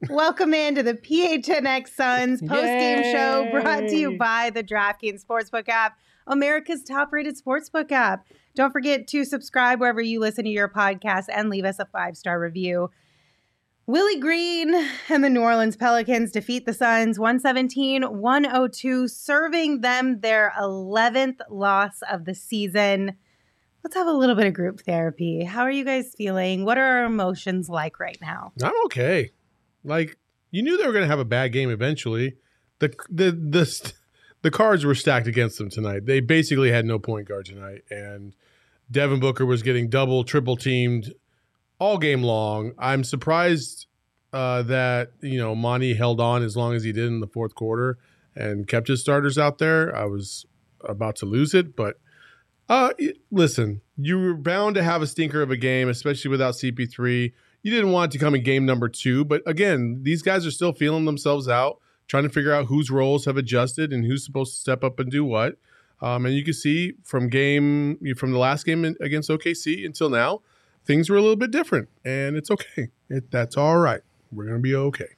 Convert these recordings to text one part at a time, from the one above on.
Welcome into the PHNX Suns post-game show brought to you by the DraftKings Sportsbook app, America's top-rated sportsbook app. Don't forget to subscribe wherever you listen to your podcast and leave us a 5-star review. Willie Green and the New Orleans Pelicans defeat the Suns 117-102, serving them their 11th loss of the season. Let's have a little bit of group therapy. How are you guys feeling? What are our emotions like right now? I'm okay. Like, you knew they were going to have a bad game eventually. The cards were stacked against them tonight. They basically had no point guard tonight, and Devin Booker was getting double, triple teamed all game long. I'm surprised that, Monty held on as long as he did in the fourth quarter and kept his starters out there. I was about to lose it, but listen, you were bound to have a stinker of a game, especially without CP3. You didn't want it to come in game number 2, but again, these guys are still feeling themselves out, trying to figure out whose roles have adjusted and who's supposed to step up and do what. And you can see from the last game against OKC until now, things were a little bit different, and it's okay. That's all right. We're going to be okay.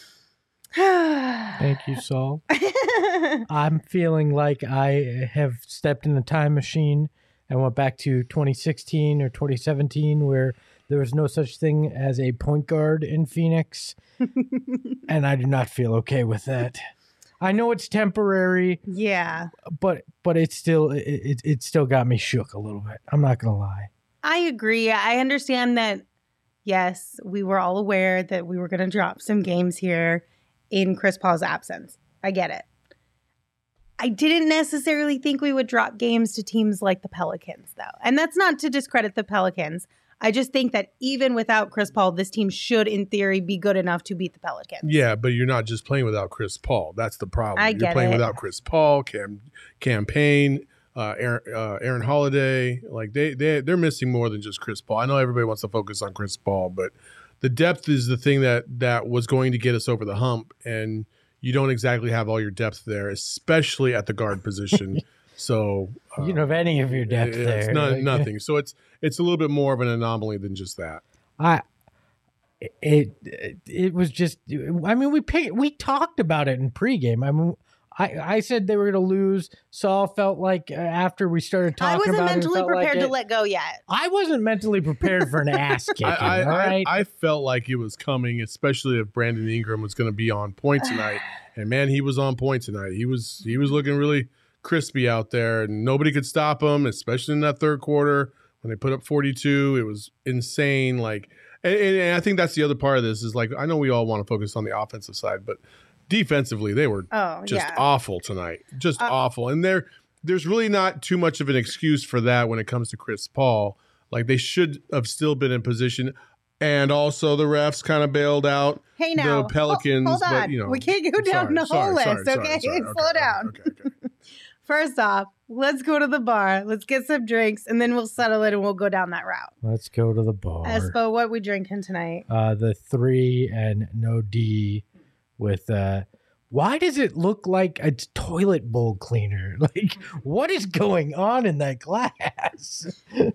Thank you, Saul. I'm feeling like I have stepped in the time machine and went back to 2016 or 2017 where there was no such thing as a point guard in Phoenix, and I do not feel okay with that. I know it's temporary. Yeah. But it's still it still got me shook a little bit. I'm not going to lie. I agree. I understand that, yes, we were all aware that we were going to drop some games here in Chris Paul's absence. I get it. I didn't necessarily think we would drop games to teams like the Pelicans, though. And that's not to discredit the Pelicans. I just think that even without Chris Paul, this team should, in theory, be good enough to beat the Pelicans. Yeah, but you're not just playing without Chris Paul. That's the problem. You're playing without Chris Paul, Cam Payne, Aaron Holiday. Like they're missing more than just Chris Paul. I know everybody wants to focus on Chris Paul, but the depth is the thing that was going to get us over the hump, and you don't exactly have all your depth there, especially at the guard position. So you don't have any of your depth there. It's nothing. So it's a little bit more of an anomaly than just that. It was just. I mean, we talked about it in pregame. I mean, I said they were going to lose. Saul felt like after we started talking about it, I wasn't mentally prepared to let go yet. I wasn't mentally prepared for an ass kicking. All right? I felt like it was coming, especially if Brandon Ingram was going to be on point tonight. And man, he was on point tonight. He was looking really crispy out there, and nobody could stop him, especially in that third quarter when they put up 42. It was insane. Like, and I think that's the other part of this is like, I know we all want to focus on the offensive side, but defensively they were awful tonight, just awful. And there's really not too much of an excuse for that when it comes to Chris Paul. Like, they should have still been in position. And also the refs kind of bailed out the Pelicans. Hold on. But, we can't go down the whole list, okay? Slow down. Okay. First off, let's go to the bar. Let's get some drinks, and then we'll settle it, and we'll go down that route. Let's go to the bar. Espo, what we drinking tonight? The 3 and no D with why does it look like a toilet bowl cleaner? Like, what is going on in that glass? I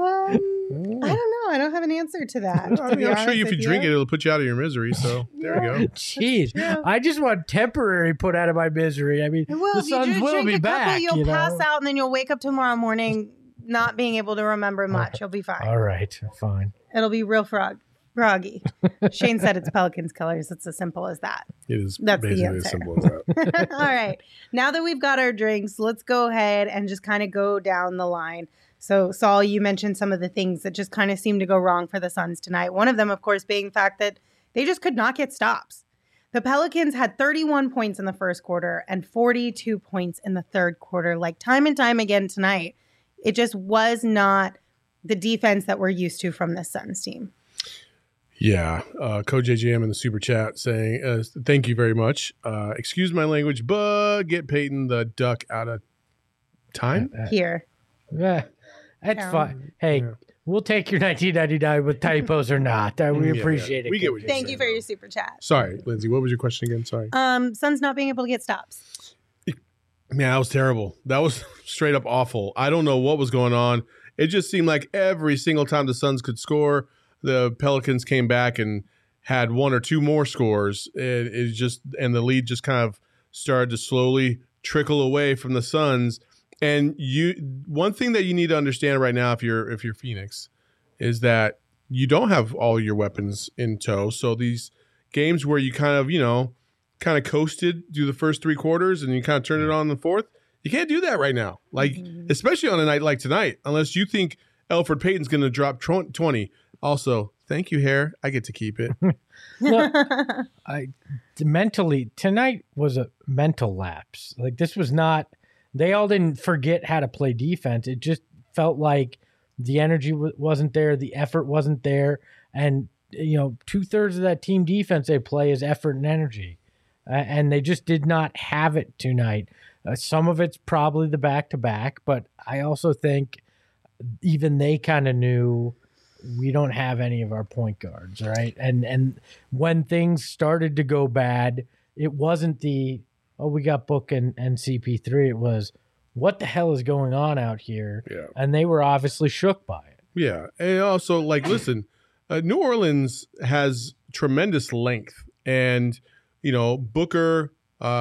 don't know. I don't have an answer to that. I mean, I'm sure if you drink it, it'll put you out of your misery. So there you go. Jeez, I just want temporary put out of my misery. I mean, the Suns will be back. You'll pass out, and then you'll wake up tomorrow morning not being able to remember much. You'll be fine. All right, fine. It'll be real froggy. Shane said it's Pelicans colors. It's as simple as that. It is. That's basically the answer. as simple as that. All right. Now that we've got our drinks, let's go ahead and just kind of go down the line. So, Saul, you mentioned some of the things that just kind of seemed to go wrong for the Suns tonight. One of them, of course, being the fact that they just could not get stops. The Pelicans had 31 points in the first quarter and 42 points in the third quarter. Like, time and time again tonight, it just was not the defense that we're used to from this Suns team. Yeah. Coach AJM in the super chat saying, thank you very much. Excuse my language, but get Peyton the duck out of time. Here. Yeah, that's fine. Hey, we'll take your 1999 with typos or not. We appreciate it. We get what you're Thank saying, you for your super chat. Sorry, Lindsay, what was your question again? Sorry. Suns not being able to get stops. Man, that was terrible. That was straight up awful. I don't know what was going on. It just seemed like every single time the Suns could score, the Pelicans came back and had one or two more scores, and the lead just kind of started to slowly trickle away from the Suns. And one thing that you need to understand right now, if you're Phoenix, is that you don't have all your weapons in tow. So these games where you kind of coasted through the first three quarters and you kind of turn it on in the fourth, you can't do that right now. Like, especially on a night like tonight, unless you think Elfrid Payton's going to drop 20. Also, thank you, Hair. I get to keep it. Look, mentally, tonight was a mental lapse. Like, this was not, they all didn't forget how to play defense. It just felt like the energy wasn't there, the effort wasn't there. And, 2/3 of that team defense they play is effort and energy. And they just did not have it tonight. Some of it's probably the back-to-back, but I also think even they kind of knew we don't have any of our point guards, right? And when things started to go bad, it wasn't we got Book and CP3. It was, what the hell is going on out here? Yeah. And they were obviously shook by it. Yeah. And also, listen, New Orleans has tremendous length. And, Booker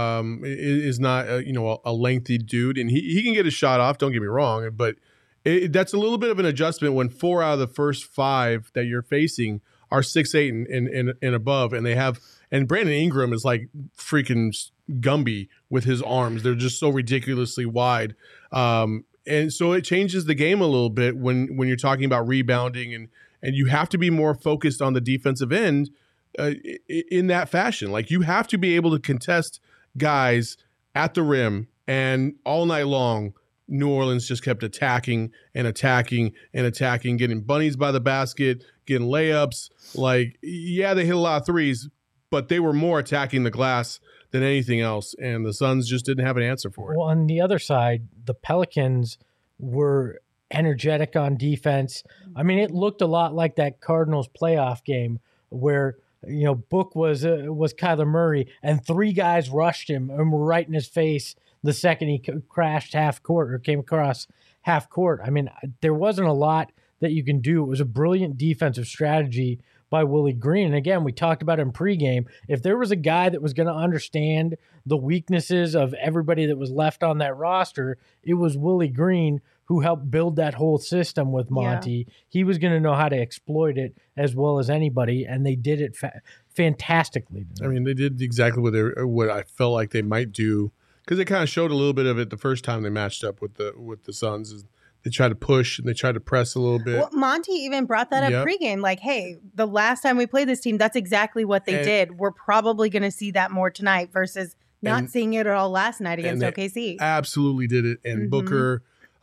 is not, a lengthy dude. And he can get a shot off, don't get me wrong. But that's a little bit of an adjustment when 4 out of the first 5 that you're facing are 6'8" and above. And Brandon Ingram is like freaking Gumby with his arms. They're just so ridiculously wide. And so it changes the game a little bit when you're talking about rebounding and you have to be more focused on the defensive end in that fashion. Like, you have to be able to contest guys at the rim, and all night long, New Orleans just kept attacking and attacking and attacking, getting bunnies by the basket, getting layups. Like, yeah, they hit a lot of threes, but they were more attacking the glass than anything else, and the Suns just didn't have an answer for it. Well, on the other side, the Pelicans were energetic on defense. I mean, it looked a lot like that Cardinals playoff game where Book was Kyler Murray, and 3 guys rushed him and were right in his face the second he crashed half court or came across half court. I mean, there wasn't a lot that you can do. It was a brilliant defensive strategy by Willie Green. And again, we talked about in pregame, if there was a guy that was going to understand the weaknesses of everybody that was left on that roster, it was Willie Green, who helped build that whole system with Monty. Yeah. He was going to know how to exploit it as well as anybody, and they did it fantastically. I mean, they did exactly what I felt like they might do, because they kind of showed a little bit of it the first time they matched up with the Suns. They tried to push and they tried to press a little bit. Well, Monty even brought that up pregame. Like, hey, the last time we played this team, that's exactly what they did. We're probably going to see that more tonight versus not seeing it at all last night against OKC. Absolutely did it. And Booker,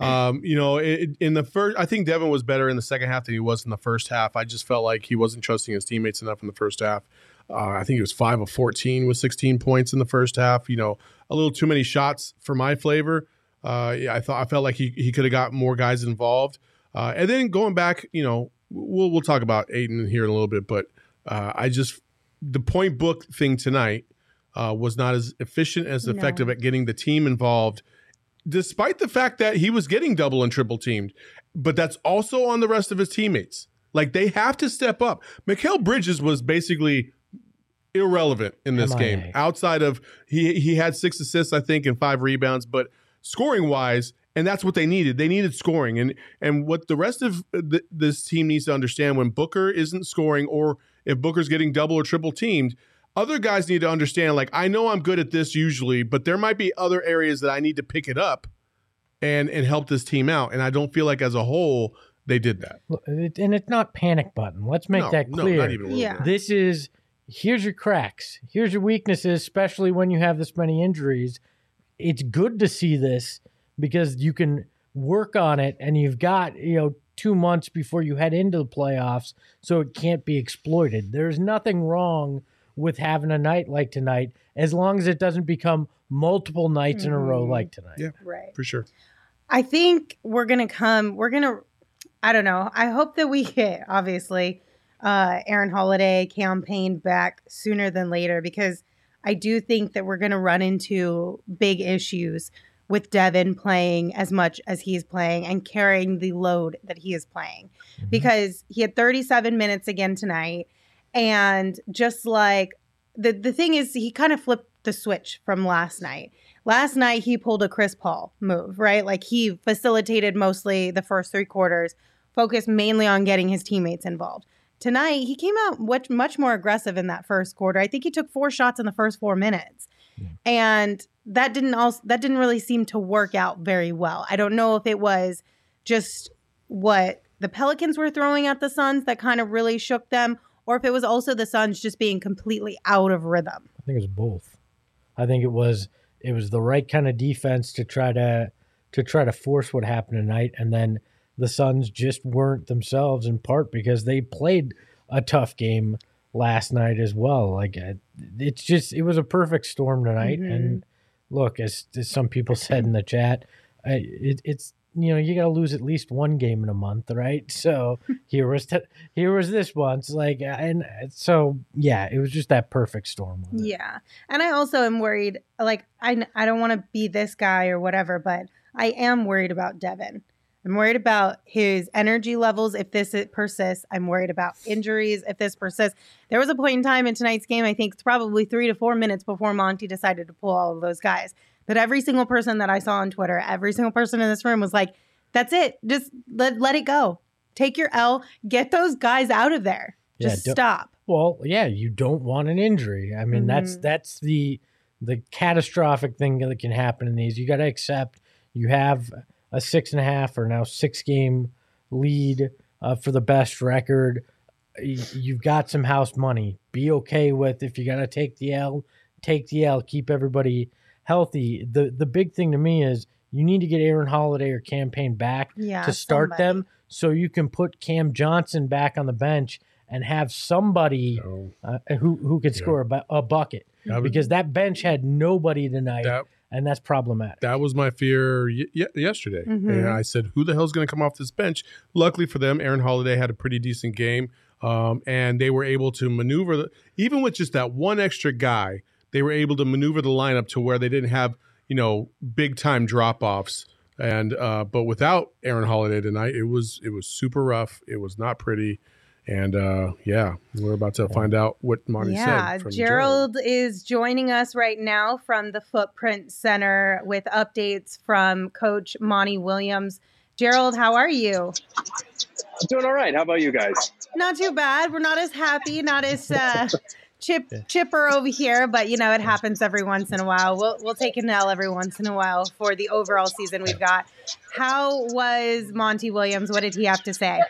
in the first, I think Devin was better in the second half than he was in the first half. I just felt like he wasn't trusting his teammates enough in the first half. I think he was 5 of 14 with 16 points in the first half. A little too many shots for my flavor. I felt like he could have got more guys involved. And then going back, we'll talk about Ayton here in a little bit, but the point book thing tonight was not as efficient as effective at getting the team involved, despite the fact that he was getting double and triple teamed. But that's also on the rest of his teammates. Like, they have to step up. Mikal Bridges was basically irrelevant in this game. Outside of he had 6 assists, I think, and 5 rebounds, but scoring wise, and that's what they needed. They needed scoring, and what the rest of this team needs to understand, when Booker isn't scoring, or if Booker's getting double or triple teamed, other guys need to understand, like, I know I'm good at this usually, but there might be other areas that I need to pick it up and help this team out. And I don't feel like as a whole they did that. And it's not panic button. Let's make that clear. No, not even a little bit. This is, here's your cracks. Here's your weaknesses, especially when you have this many injuries. It's good to see this because you can work on it, and you've got, 2 months before you head into the playoffs, so it can't be exploited. There's nothing wrong with having a night like tonight, as long as it doesn't become multiple nights in a row like tonight. Yeah, right. For sure. I think I don't know. I hope that we get, obviously, Aaron Holiday campaign back sooner than later, because I do think that we're going to run into big issues with Devin playing as much as he's playing and carrying the load that he is playing, because he had 37 minutes again tonight. And just like the thing is, he kind of flipped the switch from last night. Last night, he pulled a Chris Paul move, right? Like he facilitated mostly the first 3 quarters, focused mainly on getting his teammates involved. Tonight, he came out much more aggressive in that first quarter. I think he took 4 shots in the first 4 minutes. And that didn't really seem to work out very well. I don't know if it was just what the Pelicans were throwing at the Suns that kind of really shook them, or if it was also the Suns just being completely out of rhythm. I think it was both. I think it was the right kind of defense to try to force what happened tonight, and then the Suns just weren't themselves, in part because they played a tough game last night as well. Like it was a perfect storm tonight. Mm-hmm. And look, as some people said in the chat, it's you got to lose at least one game in a month, right? So here was this once, and so yeah, it was just that perfect storm. Yeah, and I also am worried. Like I don't want to be this guy or whatever, but I am worried about Devin. I'm worried about his energy levels if this persists. I'm worried about injuries if this persists. There was a point in time in tonight's game, I think it's probably 3 to 4 minutes before Monty decided to pull all of those guys, that every single person that I saw on Twitter, every single person in this room was like, that's it. Just let it go. Take your L. Get those guys out of there. Just stop. Well, yeah, you don't want an injury. I mean, that's the catastrophic thing that can happen in these. You got to accept you have a 6.5 or now 6 game lead for the best record. You've got some house money. Be okay with if you got to take the L, keep everybody healthy. The big thing to me is you need to get Aaron Holiday or Cam Payne back to start them so you can put Cam Johnson back on the bench and have somebody who could score a bucket. Because that bench had nobody tonight. And that's problematic. That was my fear yesterday. Mm-hmm. And I said, who the hell's going to come off this bench? Luckily for them, Aaron Holiday had a pretty decent game. And they were able to maneuver, even with just that one extra guy, they were able to maneuver the lineup to where they didn't have, big time drop-offs. And but without Aaron Holiday tonight, it was super rough. It was not pretty. And we're about to find out what Monty said. Yeah, Gerald is joining us right now from the Footprint Center with updates from Coach Monty Williams. Gerald, how are you? I'm doing all right. How about you guys? Not too bad. We're not as happy, not as chipper over here, but it happens every once in a while. We'll take an L every once in a while for the overall season we've got. How was Monty Williams? What did he have to say?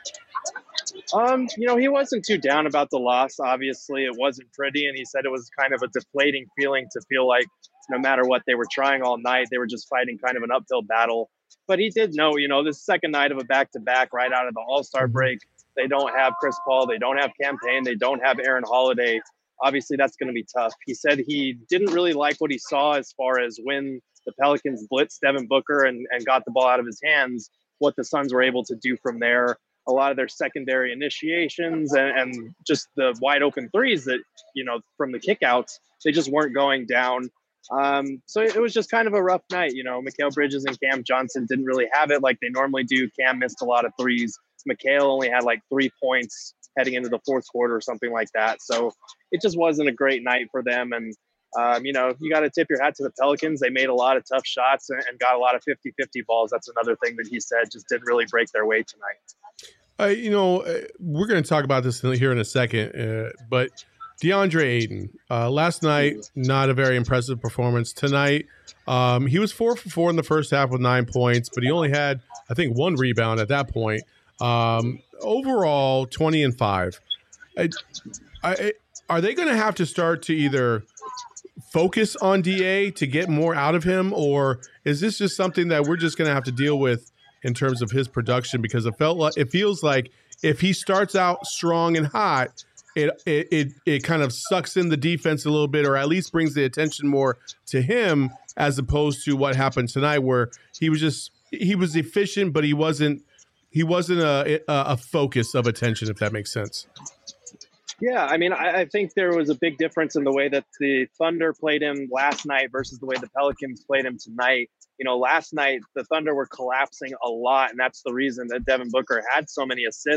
He wasn't too down about the loss. Obviously, it wasn't pretty, and he said it was kind of a deflating feeling to feel like no matter what they were trying all night, they were just fighting kind of an uphill battle. But he did know, this second night of a back-to-back right out of the All-Star break, they don't have Chris Paul, they don't have Cam Payne, they don't have Aaron Holiday. Obviously, that's going to be tough. He said he didn't really like what he saw as far as when the Pelicans blitzed Devin Booker and got the ball out of his hands, what the Suns were able to do from there. A lot of their secondary initiations and just the wide open threes that, from the kickouts, they just weren't going down. So it was just kind of a rough night. Mikal Bridges and Cam Johnson didn't really have it like they normally do. Cam missed a lot of threes. Mikal only had like 3 points heading into the fourth quarter or something like that. So it just wasn't a great night for them. And, you got to tip your hat to the Pelicans. They made a lot of tough shots and got a lot of 50-50 balls. That's another thing that he said just didn't really break their way tonight. We're going to talk about this here in a second, but DeAndre Ayton, last night, not a very impressive performance. Tonight, he was 4 for 4 in the first half with 9 points, but he only had, I think, 1 rebound at that point. Overall, 20 and 5. Are they going to have to start to either focus on DA to get more out of him, or is this just something that we're just going to have to deal with in terms of his production? Because it feels like if he starts out strong and hot, it kind of sucks in the defense a little bit, or at least brings the attention more to him, as opposed to what happened tonight, where he was efficient, but he wasn't a focus of attention, if that makes sense. Yeah, I mean, I think there was a big difference in the way that the Thunder played him last night versus the way the Pelicans played him tonight. Last night the Thunder were collapsing a lot, and that's the reason that Devin Booker had so many assists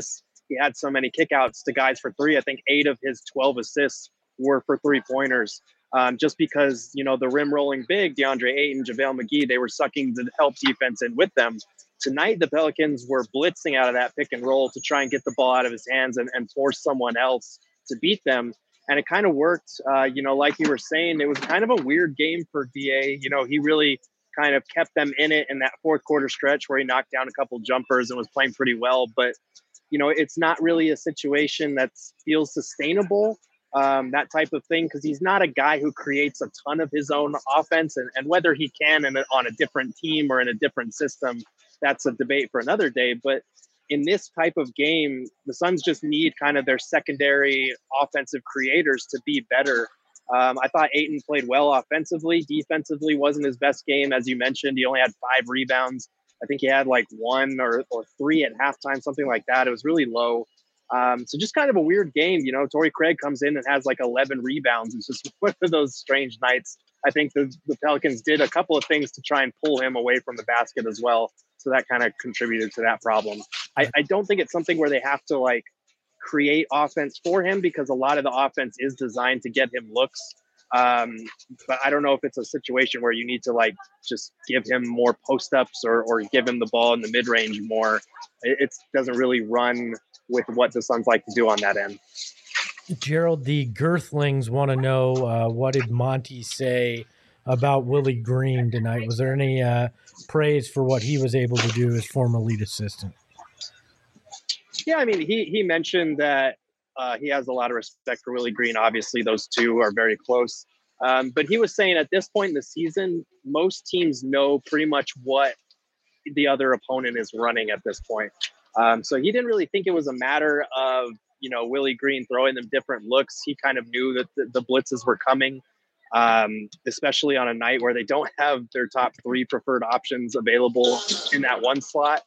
he had so many kickouts to guys for three. I think 8 of his 12 assists were for 3-pointers. Just because, the rim rolling big, DeAndre Ayton, JaVale McGee, they were sucking the help defense in with them. Tonight, the Pelicans were blitzing out of that pick and roll to try and get the ball out of his hands and force someone else to beat them. And it kind of worked. Like you were saying, it was kind of a weird game for DA. He really kind of kept them in it in that fourth quarter stretch where he knocked down a couple jumpers and was playing pretty well. But, it's not really a situation that feels sustainable, that type of thing, because he's not a guy who creates a ton of his own offense. And whether he can on a different team or in a different system, that's a debate for another day. But in this type of game, the Suns just need kind of their secondary offensive creators to be better. I thought Ayton played well offensively. Defensively wasn't his best game. As you mentioned, he only had 5 rebounds. I think he had like 1 or 3 at halftime, something like that. It was really low. So just kind of a weird game. Torrey Craig comes in and has like 11 rebounds. It's just one of those strange nights. I think the Pelicans did a couple of things to try and pull him away from the basket as well. So that kind of contributed to that problem. I don't think it's something where they have to like create offense for him, because a lot of the offense is designed to get him looks. But I don't know if it's a situation where you need to like just give him more post-ups or give him the ball in the mid-range more. It doesn't really run with what the Suns like to do on that end. Gerald, the Girthlings want to know, what did Monty say about Willie Green tonight? Was there any praise for what he was able to do as former lead assistant? Yeah, I mean, he mentioned that he has a lot of respect for Willie Green. Obviously, those two are very close. But he was saying at this point in the season, most teams know pretty much what the other opponent is running at this point. So he didn't really think it was a matter of, Willie Green throwing them different looks. He kind of knew that the blitzes were coming, especially on a night where they don't have their top 3 preferred options available in that one slot.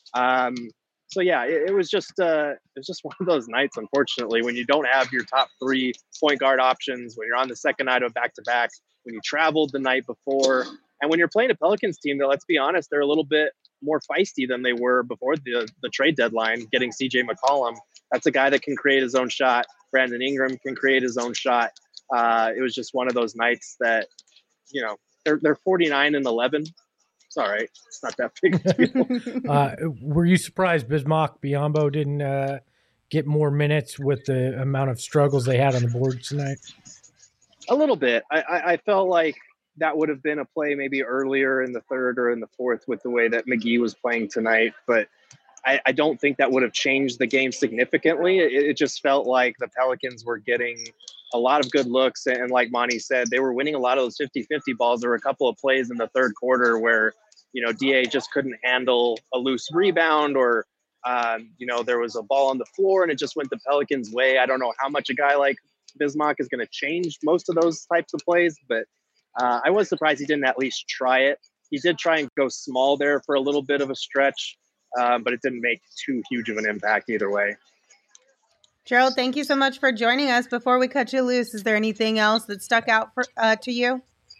So yeah, it was just one of those nights, unfortunately, when you don't have your top 3 point guard options, when you're on the second night of back-to-back, when you traveled the night before, and when you're playing a Pelicans team that, let's be honest, they're a little bit more feisty than they were before the trade deadline, getting CJ McCollum. That's a guy that can create his own shot. Brandon Ingram can create his own shot. It was just one of those nights that, they're 49-11. It's all right. It's not that big a deal. Were you surprised Bismack Biyombo didn't get more minutes with the amount of struggles they had on the board tonight? A little bit. I felt like that would have been a play maybe earlier in the third or in the fourth with the way that McGee was playing tonight. But I don't think that would have changed the game significantly. It just felt like the Pelicans were getting a lot of good looks. And like Monty said, they were winning a lot of those 50-50 balls. There were a couple of plays in the third quarter where, DA just couldn't handle a loose rebound or, there was a ball on the floor and it just went the Pelicans' way. I don't know how much a guy like Bismack is going to change most of those types of plays, but I was surprised he didn't at least try it. He did try and go small there for a little bit of a stretch, but it didn't make too huge of an impact either way. Gerald, thank you so much for joining us. Before we cut you loose, is there anything else that stuck out to you?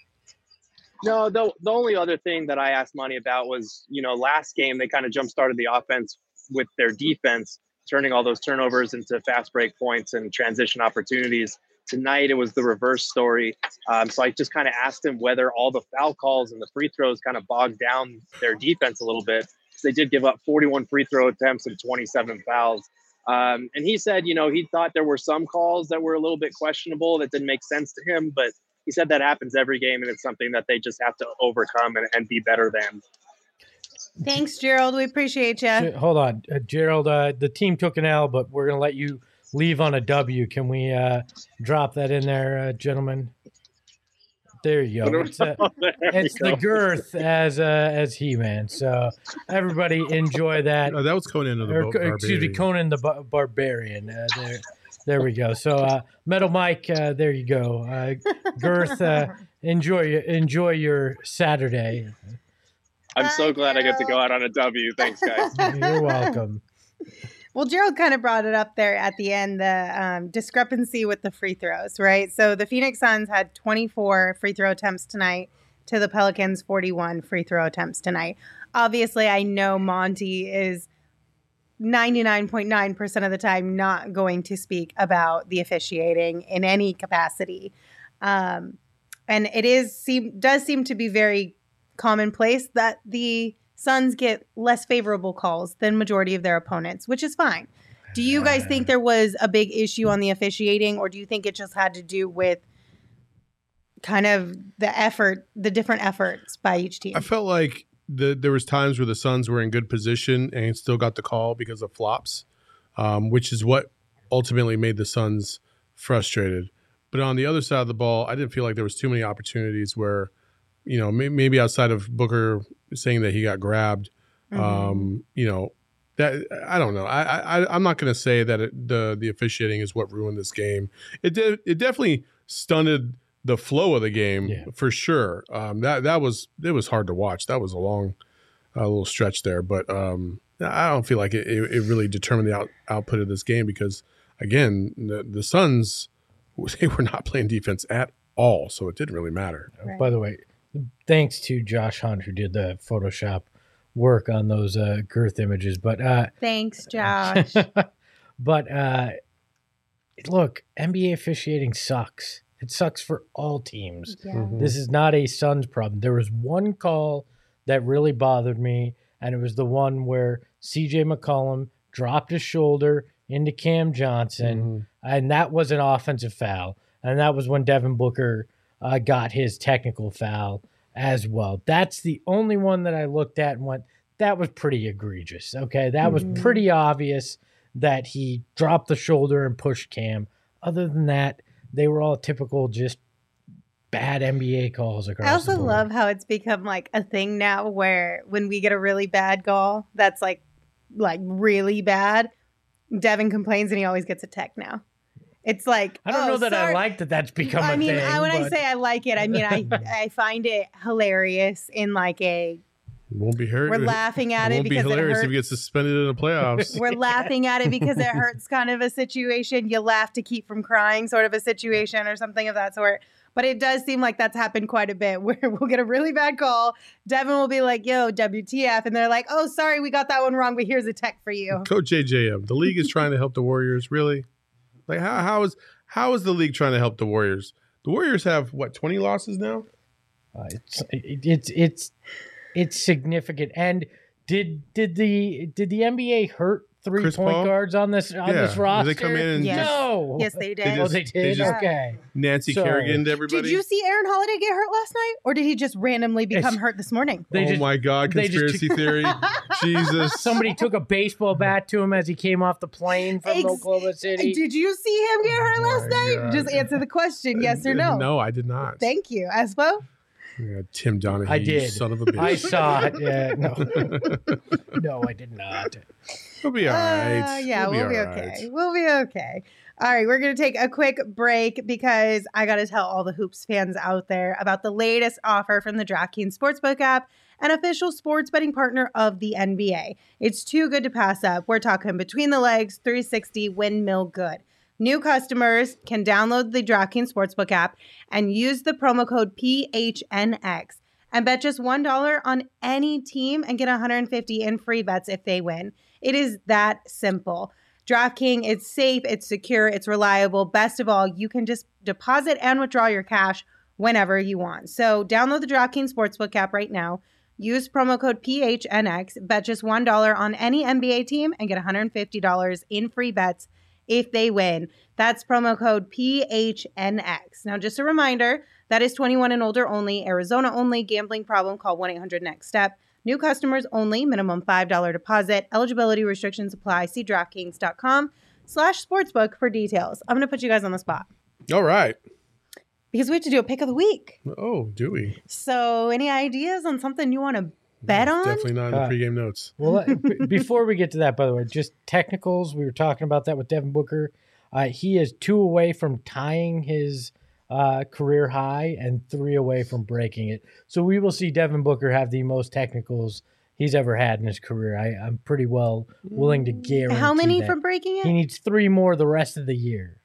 No, the only other thing that I asked Monty about was, last game they kind of jump-started the offense with their defense, turning all those turnovers into fast break points and transition opportunities. Tonight, it was the reverse story. So I just kind of asked him whether all the foul calls and the free throws kind of bogged down their defense a little bit. They did give up 41 free throw attempts and 27 fouls. And he said, he thought there were some calls that were a little bit questionable that didn't make sense to him, but he said that happens every game and it's something that they just have to overcome and be better than. Thanks, Gerald. We appreciate you. Hold on, Gerald, the team took an L, but we're going to let you leave on a W. Can we drop that in there, gentlemen? There you go. It's the girth as He-Man. So everybody enjoy that. Oh, that was Conan the Barbarian. Excuse me, Conan the Barbarian. There we go. So Metal Mike, there you go. Girth, enjoy your Saturday. I'm so glad I get to go out on a W. Thanks, guys. You're welcome. Well, Gerald kind of brought it up there at the end, the discrepancy with the free throws, right? So the Phoenix Suns had 24 free throw attempts tonight to the Pelicans' 41 free throw attempts tonight. Obviously, I know Monty is 99.9% of the time not going to speak about the officiating in any capacity. And it does seem to be very commonplace that the Suns get less favorable calls than majority of their opponents, which is fine. Do you guys think there was a big issue on the officiating, or do you think it just had to do with kind of the different efforts by each team? I felt like there was times where the Suns were in good position and still got the call because of flops, which is what ultimately made the Suns frustrated. But on the other side of the ball, I didn't feel like there was too many opportunities where, maybe outside of Booker saying that he got grabbed, that I don't know. I'm not going to say that the officiating is what ruined this game. It definitely stunted the flow of the game for sure. It was hard to watch. That was a long little stretch there, but I don't feel like it really determined the output of this game because again, the Suns, they were not playing defense at all, so it didn't really matter. Right. By the way, thanks to Josh Hunt who did the Photoshop work on those girth images, but thanks, Josh. But look, NBA officiating sucks. It sucks for all teams. Yeah. Mm-hmm. This is not a Suns problem. There was one call that really bothered me, and it was the one where CJ McCollum dropped his shoulder into Cam Johnson, and that was an offensive foul. And that was when Devin Booker got his technical foul as well. That's the only one that I looked at and went, that was pretty egregious. Okay, that was pretty obvious that he dropped the shoulder and pushed Cam. Other than that, they were all typical just bad NBA calls across I also the board. love how it's become like a thing now where when we get a really bad call that's like really bad, Devin complains and he always gets a tech now. It's like, I don't know that I like that that's become a thing. I say I like it, I mean, I find it hilarious in like a... Won't be hurt. We're laughing at it because it won't be hilarious if he gets suspended in the playoffs. We're laughing at it because it hurts kind of a situation. You laugh to keep from crying sort of a situation or something of that sort. But it does seem like that's happened quite a bit where we'll get a really bad call. Devin will be like, yo, WTF. And they're like, oh, sorry, we got that one wrong, but here's a tech for you. Coach JJM, the league is trying to help the Warriors. Really? Like, how is the league trying to help the Warriors? The Warriors have, 20 losses now? It's significant. And did the NBA hurt three-point guards on this roster? Did they come in and no. Yes, they did. They did? Okay. Nancy Kerrigan to everybody? Did you see Aaron Holiday get hurt last night? Or did he just randomly become hurt this morning? My God, conspiracy theory. Jesus. Somebody took a baseball bat to him as he came off the plane from Oklahoma City. Did you see him get hurt last night? God. Just answer the question, yes or no. No, I did not. Thank you. Espo? Yeah, Tim Donahue, I did. Son of a bitch. I saw it. Yeah, no. No, I did not. We'll be all right. We'll be okay. We'll be okay. All right, we're going to take a quick break because I got to tell all the Hoops fans out there about the latest offer from the DraftKings Sportsbook app, an official sports betting partner of the NBA. It's too good to pass up. We're talking between the legs, 360 windmill good. New customers can download the DraftKings Sportsbook app and use the promo code PHNX and bet just $1 on any team and get $150 in free bets if they win. It is that simple. DraftKings, it's safe, it's secure, it's reliable. Best of all, you can just deposit and withdraw your cash whenever you want. So download the DraftKings Sportsbook app right now. Use promo code PHNX, bet just $1 on any NBA team and get $150 in free bets if they win. That's promo code PHNX. Now, just a reminder, that is 21 and older only, Arizona only, gambling problem, call 1-800-NEXT-STEP. New customers only, minimum $5 deposit. Eligibility restrictions apply. See DraftKings.com/sportsbook for details. I'm going to put you guys on the spot. All right. Because we have to do a pick of the week. Oh, do we? So any ideas on something you want to bet on? Definitely not in the pregame notes. Well, before we get to that, by the way, just technicals. We were talking about that with Devin Booker. He is 2 away from tying his career high and 3 away from breaking it. So we will see Devin Booker have the most technicals he's ever had in his career. I'm pretty well willing to guarantee. How many that. from breaking it? He needs 3 more the rest of the year.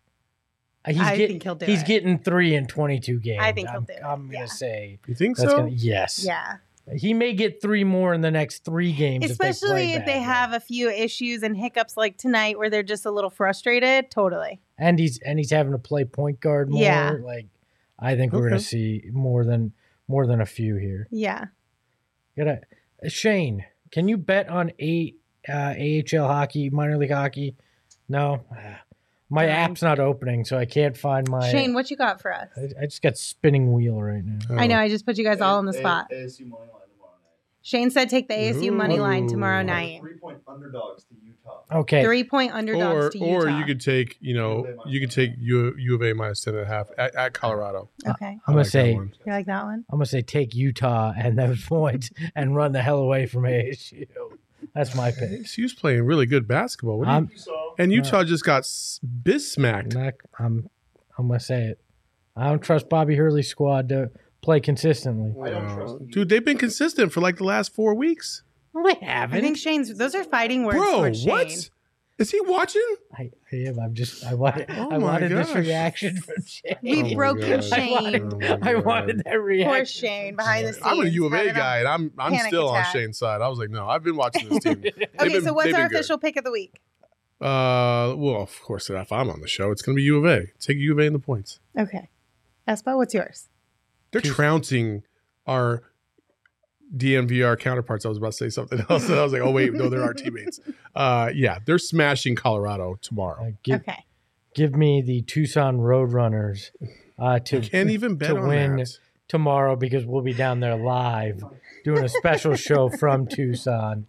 I think he'll do it. He's getting 3 in 22 games. I think he'll do it. I'm going to say. You think so? Yes. Yeah. He may get 3 more in the next 3 games. Especially if they have a few issues and hiccups like tonight where they're just a little frustrated. Totally. And he's having to play point guard more. Yeah. Like, I think we're going to see more than a few here. Yeah. Shane, can you bet on AHL hockey, minor league hockey? No. My app's not opening, so I can't find my... Shane, what you got for us? I just got spinning wheel right now. I know, I just put you guys all on the spot. ASU money line tomorrow night. Shane said take the ASU money line tomorrow night. 3-point underdogs to Utah. Okay. 3-point underdogs to Utah. Or you could take, U of A minus 10.5 at Colorado. Okay. I'm going to say... You like that one? I'm going to say take Utah and those points and run the hell away from ASU. That's my pick. ASU's playing really good basketball. And Utah just got bismacked. I'm going to say it. I don't trust Bobby Hurley's squad to play consistently. I don't trust them. Dude, they've been consistent for like the last 4 weeks. Well, they haven't. I think those are fighting words Bro, towards Shane. what? Is he watching? I am. I wanted my this gosh. reaction from Shane. We've broken gosh. Shane. I wanted that reaction. Poor Shane behind the scenes. I'm a U of A having guy, and I'm panic still attack. on Shane's side. I was like, no, I've been watching this team. Okay, so what's they've our been good. official pick of the week? Well, of course, if I'm on the show, it's going to be U of A. Take U of A in the points. Okay. Espo, what's yours? They're trouncing our DNVR counterparts. I was about to say something else, and I was like, oh, wait, no, they're our teammates. Yeah, they're smashing Colorado tomorrow. Okay. Give me the Tucson Roadrunners to Can't even bet to on win that. tomorrow because we'll be down there live doing a special show from Tucson.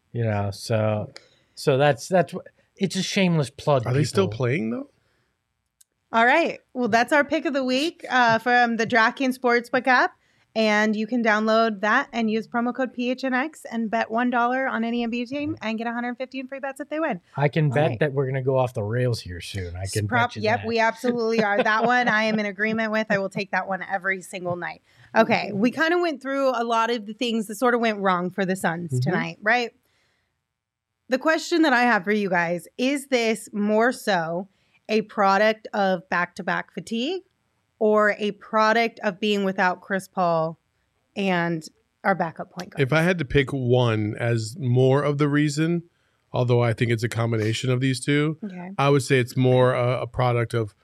So that's what it's a shameless plug. Are they still people. playing, though? All right. Well, that's our pick of the week from the DraftKings Sportsbook app. And you can download that and use promo code PHNX and bet $1 on any NBA team and get 150 in free bets if they win. I can bet right. that we're going to go off the rails here soon. I can bet you Yep, that. we absolutely are. That one I am in agreement with. I will take that one every single night. Okay, we kind of went through a lot of the things that sort of went wrong for the Suns tonight, right? The question that I have for you guys, is this more so a product of back-to-back fatigue or a product of being without Chris Paul and our backup point guard? If I had to pick one as more of the reason, although I think it's a combination of these two, I would say it's more a product of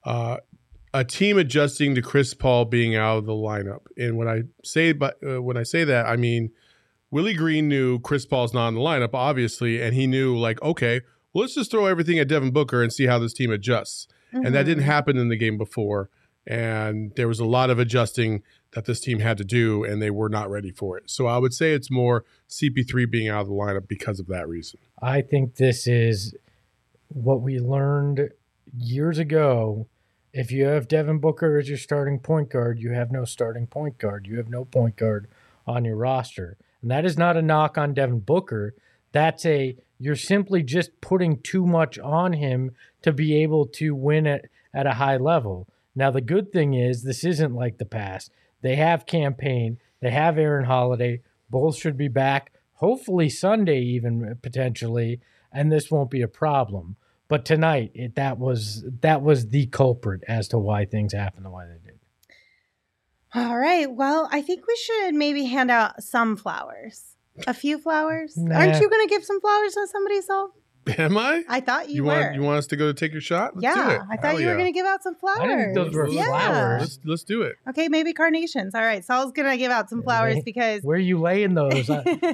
a team adjusting to Chris Paul being out of the lineup. And when I say that, I mean Willie Green knew Chris Paul's not in the lineup, obviously, and he knew, like, okay, well, let's just throw everything at Devin Booker and see how this team adjusts. And that didn't happen in the game before. And there was a lot of adjusting that this team had to do, and they were not ready for it. So I would say it's more CP3 being out of the lineup because of that reason. I think this is what we learned years ago. If you have Devin Booker as your starting point guard, you have no starting point guard. You have no point guard on your roster. And that is not a knock on Devin Booker. You're simply just putting too much on him to be able to win at a high level. Now, the good thing is this isn't like the past. They have Campaign. They have Aaron Holiday. Both should be back, hopefully Sunday even potentially, and this won't be a problem. But tonight, that was the culprit as to why things happened the way they did. All right. Well, I think we should maybe hand out some flowers. A few flowers? Nah. Aren't you going to give some flowers on somebody's soul? Am I? I thought you were. You want us to go to take your shot? Let's do it. I thought you were going to give out some flowers. I didn't think those were flowers. Let's do it. Okay, maybe carnations. All right. Saul's going to give out some flowers because Where are you laying those?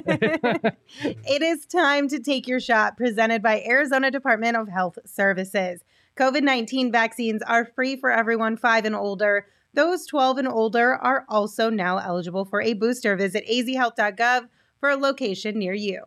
it is time to take your shot, presented by Arizona Department of Health Services. COVID-19 vaccines are free for everyone 5 and older. Those 12 and older are also now eligible for a booster. Visit azhealth.gov for a location near you.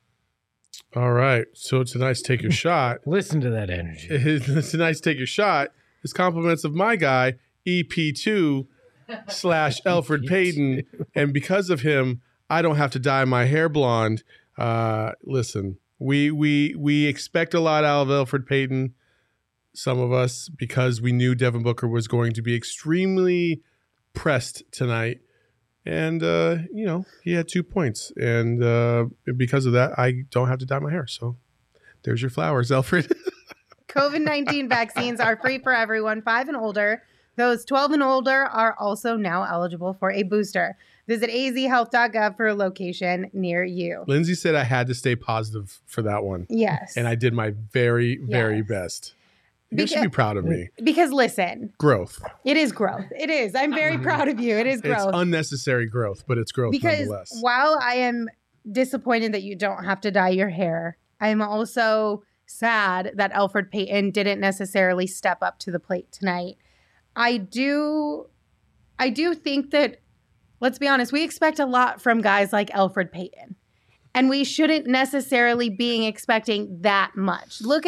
All right. So tonight's Take Your Shot. Listen to that energy. Tonight's Take Your Shot is compliments of my guy, EP2 / Elfrid Payton. And because of him, I don't have to dye my hair blonde. Listen, we expect a lot out of Elfrid Payton, some of us, because we knew Devin Booker was going to be extremely pressed tonight. And, he had 2 points. And because of that, I don't have to dye my hair. So there's your flowers, Elfrid. COVID-19 vaccines are free for everyone 5 and older. Those 12 and older are also now eligible for a booster. Visit azhealth.gov for a location near you. Lindsay said I had to stay positive for that one. Yes. And I did my very, very best. You should be proud of me. Because listen. Growth. It is growth. It is. I'm very proud of you. It is growth. It's unnecessary growth, but it's growth nonetheless. While I am disappointed that you don't have to dye your hair, I'm also sad that Elfrid Payton didn't necessarily step up to the plate tonight. I do think that, let's be honest, we expect a lot from guys like Elfrid Payton. And we shouldn't necessarily be expecting that much. He's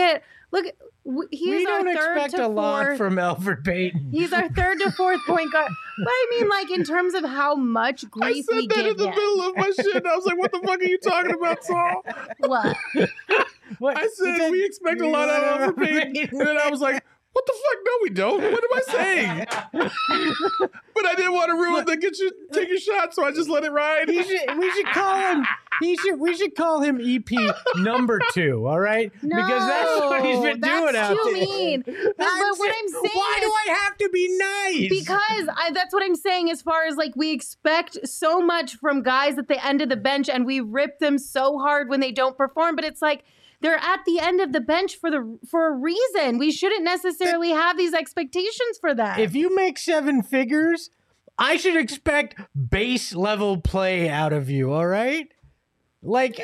we don't expect a lot from Elfrid Payton. He's our third to fourth point guard. But I mean, like, in terms of how much grief we give him. I said that in the middle of my shit. I was like, what the fuck are you talking about, Saul? What? I said, we expect a lot out of Elfrid Payton. And then I was like, what the fuck? No, we don't. What am I saying? But I didn't want to ruin take your shot, so I just let it ride. We should call him. We should call him EP number 2. All right, no, because that's what he's been doing out there. That's too mean. But what I'm saying why do I have to be nice? Because that's what I'm saying. As far as like, we expect so much from guys at the end of the bench, and we rip them so hard when they don't perform. But it's like, they're at the end of the bench for a reason. We shouldn't necessarily have these expectations for that. If you make 7 figures, I should expect base level play out of you. All right. Like,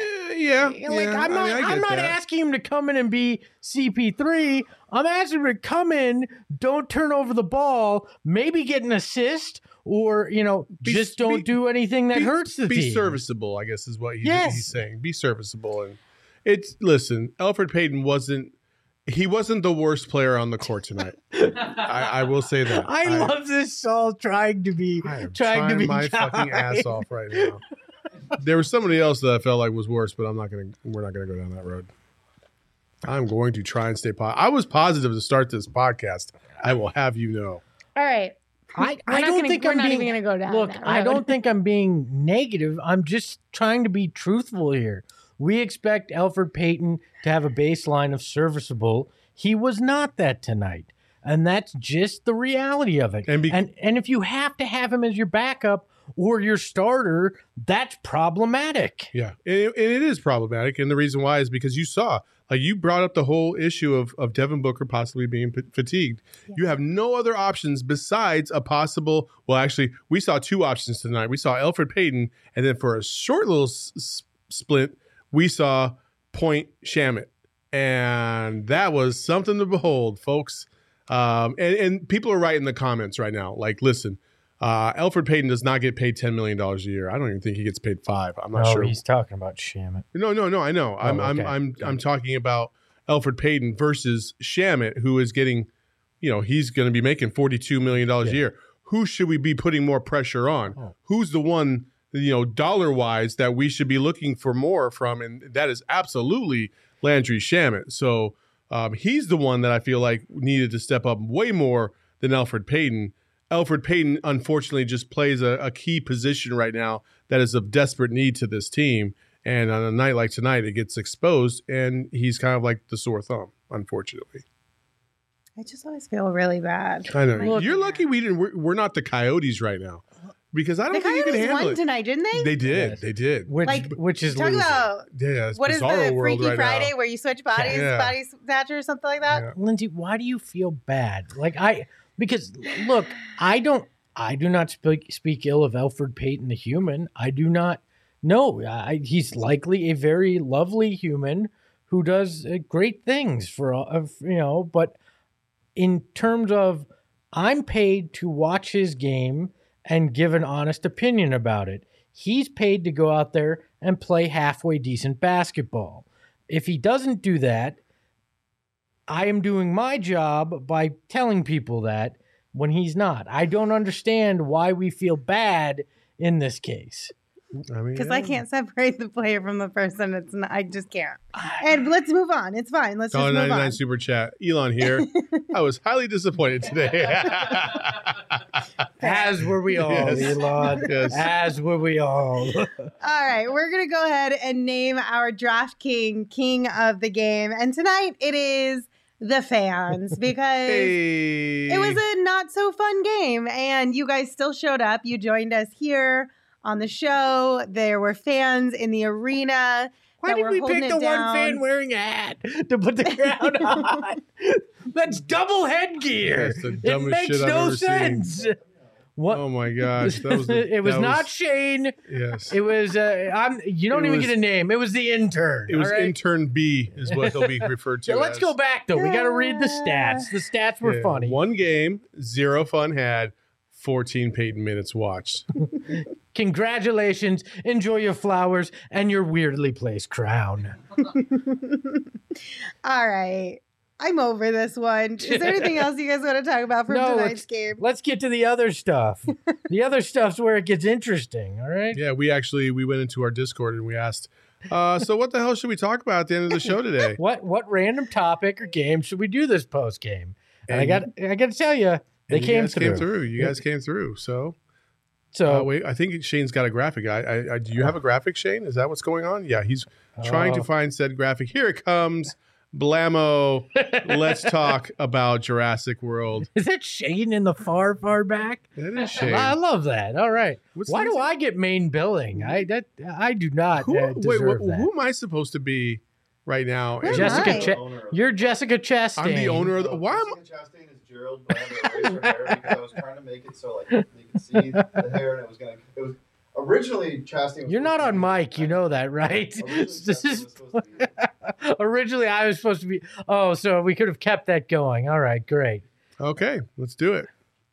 I'm not asking him to come in and be CP3. I'm asking him to come in, don't turn over the ball, maybe get an assist, or just don't do anything that hurts the team. Be serviceable, I guess, is what he's saying. Be serviceable. And listen, Elfrid Payton wasn't the worst player on the court tonight. I will say that. I love this Saul trying to be my fucking ass off right now. There was somebody else that I felt like was worse, but we're not gonna go down that road. I'm going to try and stay positive. I was positive to start this podcast. I will have you know. All right. I don't think I'm even going to go down. Look, I don't think I'm being negative. I'm just trying to be truthful here. We expect Elfrid Payton to have a baseline of serviceable. He was not that tonight. And that's just the reality of it. And if you have to have him as your backup or your starter, that's problematic. Yeah, and it is problematic. And the reason why is because you saw, like, you brought up the whole issue of Devin Booker possibly being fatigued. Yeah. You have no other options besides a possible, well, actually, we saw 2 options tonight. We saw Elfrid Payton, and then for a short little split, we saw Point Shamet. And that was something to behold, folks. And people are right in the comments right now. Like, listen, Elfrid Payton does not get paid $10 million a year. I don't even think he gets paid $5 million. I'm not sure. He's talking about Shamet. No, I know. I'm talking about Elfrid Payton versus Shamet, who is getting, he's going to be making $42 million a year. Who should we be putting more pressure on? Oh. Who's the one, dollar-wise that we should be looking for more from? And that is absolutely Landry Shamet. So he's the one that I feel like needed to step up way more than Elfrid Payton. Elfrid Payton, unfortunately, just plays a key position right now that is of desperate need to this team. And on a night like tonight, it gets exposed, and he's kind of like the sore thumb, unfortunately. I just always feel really bad. I know. Look, you're lucky we're not the Coyotes right now. Because I don't think you can handle it. The Coyotes won tonight, didn't they? They did. Yes. They did. Which is talk about what is the Freaky right Friday now. where you switch bodies, body snatcher or something like that? Yeah. Lindsay, why do you feel bad? Because look, I do not speak ill of Elfrid Payton the human. I do not know. He's likely a very lovely human who does great things but in terms of, I'm paid to watch his game and give an honest opinion about it. He's paid to go out there and play halfway decent basketball. If he doesn't do that, I am doing my job by telling people that when he's not. I don't understand why we feel bad in this case. Because I can't separate the player from the person. I just can't. And let's move on. It's fine. Let's just move 99 on. Super Chat. Elon here. I was highly disappointed today. As were we all, Elon. Yes. As were we all. All right. We're going to go ahead and name our Draft King of the game. And tonight it is the fans, because it was a not so fun game. And you guys still showed up. You joined us here on the show. There were fans in the arena. Why that did were we holding pick it the down. one fan wearing a hat to put the crown on? That's double headgear. That's the It dumbest makes shit I've no ever seen. sense. What? Oh my gosh, that was the, it was that not Shane. Yes, It was. You don't It even was- get a name. It was the intern. it was all right? intern B is what he'll be referred to. Yeah, let's as. go back though. We got to read the stats. The stats were Yeah, funny. 1 game, 0 fun had, 14 Peyton minutes watched. Congratulations. Enjoy your flowers and your weirdly placed crown. All right. I'm over this one. Is there anything else you guys want to talk about from No, tonight's game? Let's get to the other stuff. The other stuff's where it gets interesting. All right. Yeah, we went into our Discord and we asked, so what the hell should we talk about at the end of the show today? What random topic or game should we do this post game? And And- I got to tell you, they And came you guys through. You guys came through. So, So wait, I think Shane's got a graphic. Do you have a graphic, Shane? Is that what's going on? Yeah, he's trying to find said graphic. Here it comes. Blammo. Let's talk about Jurassic World. is that Shane in the far back? That is Shane. I love that. All right. What's Why this? do I get main billing? I do not deserve that. Who am I supposed to be right now? Who am Jessica, I? You're Jessica Chastain. I'm the owner of the. Why am Jessica Chastain is Gerald, but I had to erase her hair because I was trying to make it so like you could see the hair, and it was originally Chastain. Was You're not supposed on to be- mic. You know that, right? Originally, This Chastain is was supposed to be- originally I was supposed to be. Oh, so we could have kept that going. All right, great. Okay, let's do it.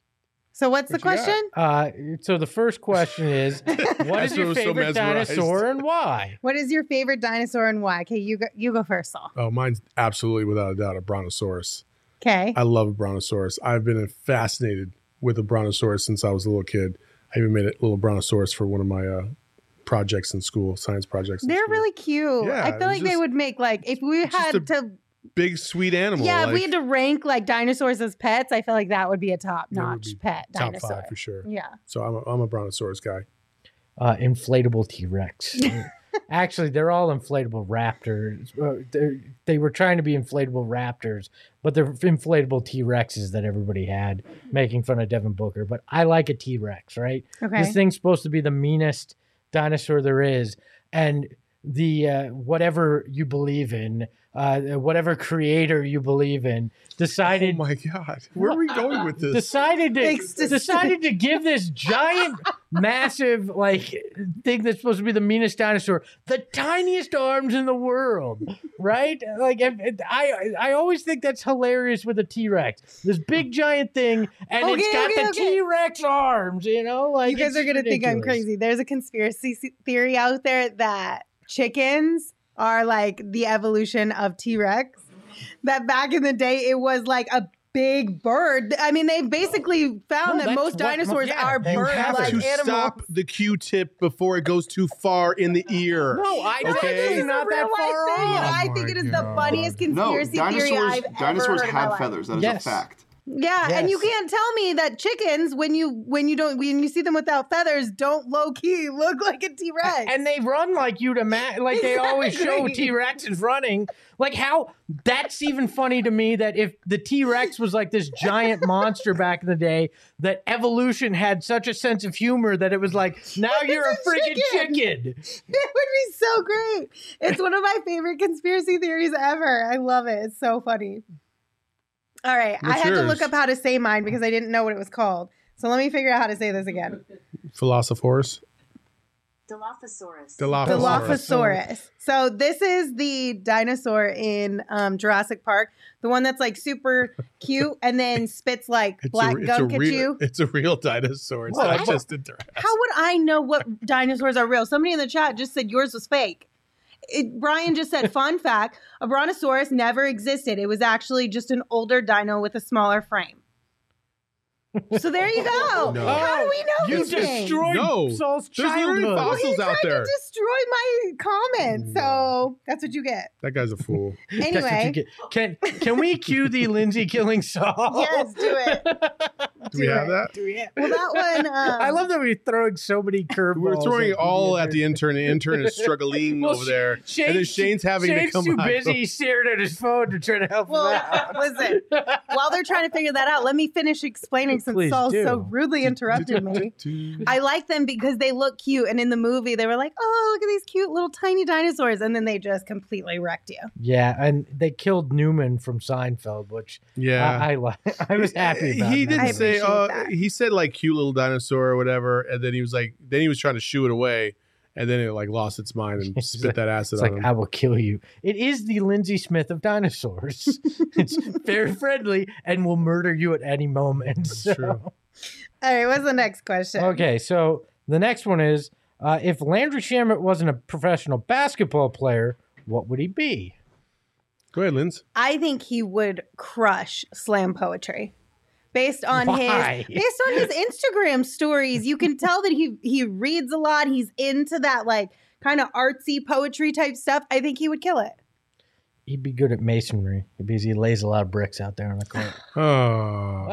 So what's the What you got? question? So the first question is, what That's is your what was so favorite mesmerized. dinosaur and why? What is your favorite dinosaur and why? Okay, you go first, Saul. Oh, mine's absolutely without a doubt a brontosaurus. Okay. I love a brontosaurus. I've been fascinated with a brontosaurus since I was a little kid. I even made a little brontosaurus for one of my projects in school, science projects. in They're school. really cute. Yeah, I it feel was like they just- would make like if we just had a to big sweet animal. if like, we had to rank like dinosaurs as pets, I feel like that would be a top That would notch be pet top dinosaur. 5 for sure. Yeah. So I'm a brontosaurus guy. Inflatable T-Rex. Actually, they're all inflatable raptors. They were trying to be inflatable raptors, but they're inflatable T-Rexes that everybody had, making fun of Devin Booker. But I like a T-Rex, right? Okay. This thing's supposed to be the meanest dinosaur there is, and the whatever you believe in, whatever creator you believe in, Oh decided my God. Where are we going with this? decided Thanks to- to give this giant, massive like thing that's supposed to be the meanest dinosaur the tiniest arms in the world, right? Like I always think that's hilarious with a T-Rex, this big giant thing, and it's got the T-Rex arms. You know, like You guys it's are gonna think I'm ridiculous. crazy. There's a conspiracy theory out there that chickens are like the evolution of T-Rex. That back in the day it was like a big bird. I mean, they've basically found No, that that's most what- dinosaurs yeah, are they You bird have like to animals. stop the Q-tip before it goes too far in the ear. No, I No, Okay. this okay. is not a that real life far thing, and off. I Oh think my it is the God. funniest No, conspiracy theory I've dinosaurs ever heard in my have life. feathers. That is Yes. a fact. Yeah, and you Yes. can't tell me that chickens, when you see them without feathers, don't low key look like a T-Rex. And they run like you'd imagine. Like they always show Exactly. T-Rexes running. Like how that's even funny to me that if the T-Rex was like this giant monster back in the day, that evolution had such a sense of humor that it was like, now you're a It's a freaking chicken. It would be so great. It's one of my favorite conspiracy theories ever. I love it. It's so funny. All right. I What's had to yours? look up how to say mine because I didn't know what it was called. So let me figure out how to say this again. Philosophosaurus. Dilophosaurus. Dilophosaurus. So this is the dinosaur in Jurassic Park, the one that's like super cute and then spits like black gunk at you. It's a real dinosaur. It's Well, not I- just a Jurassic. How would I know what dinosaurs are real? Somebody in the chat just said yours was fake. Brian just said, fun fact, a brontosaurus never existed. It was actually just an older dino with a smaller frame. So there you go. No. How do we know You these things? destroyed No. Saul's There's literally childhood. Well, he fossils out tried there. to destroy my comment, so that's what you get. That guy's a fool. That's what you Anyway, get. Can we cue the Lindsay killing Saul? yes, do it. Do we have that? Well, that one. I love that we're throwing so many curveballs. We're throwing it all at the intern. intern. The intern is struggling Well, over there. and then Shane's having Shane's to come too out. busy staring at his phone to try to help him out. Listen, while they're trying to figure that out, let me finish explaining since Please Saul do. so rudely interrupted me. I like them because they look cute. And in the movie, they were like, oh, look at these cute little tiny dinosaurs. And then they just completely wrecked you. Yeah, and they killed Newman from Seinfeld, which Yeah. I was happy about. He that. didn't I say. appreciate that. He said like cute little dinosaur or whatever, and then he was like, then he was trying to shoo it away, and then it like lost its mind and It's spit that acid It's on like, him. I will kill you. It is the Lindsay Smith of dinosaurs. It's very friendly and will murder you at any moment. That's true. All right, what's the next question? Okay, so the next one is, if Landry Shamet wasn't a professional basketball player, what would he be? Go ahead, Linz. I think he would crush slam poetry. Based on Why? his Instagram stories, you can tell that he reads a lot. He's into that like kind of artsy poetry type stuff. I think he would kill it. He'd be good at masonry because he lays a lot of bricks out there on the court. Oh.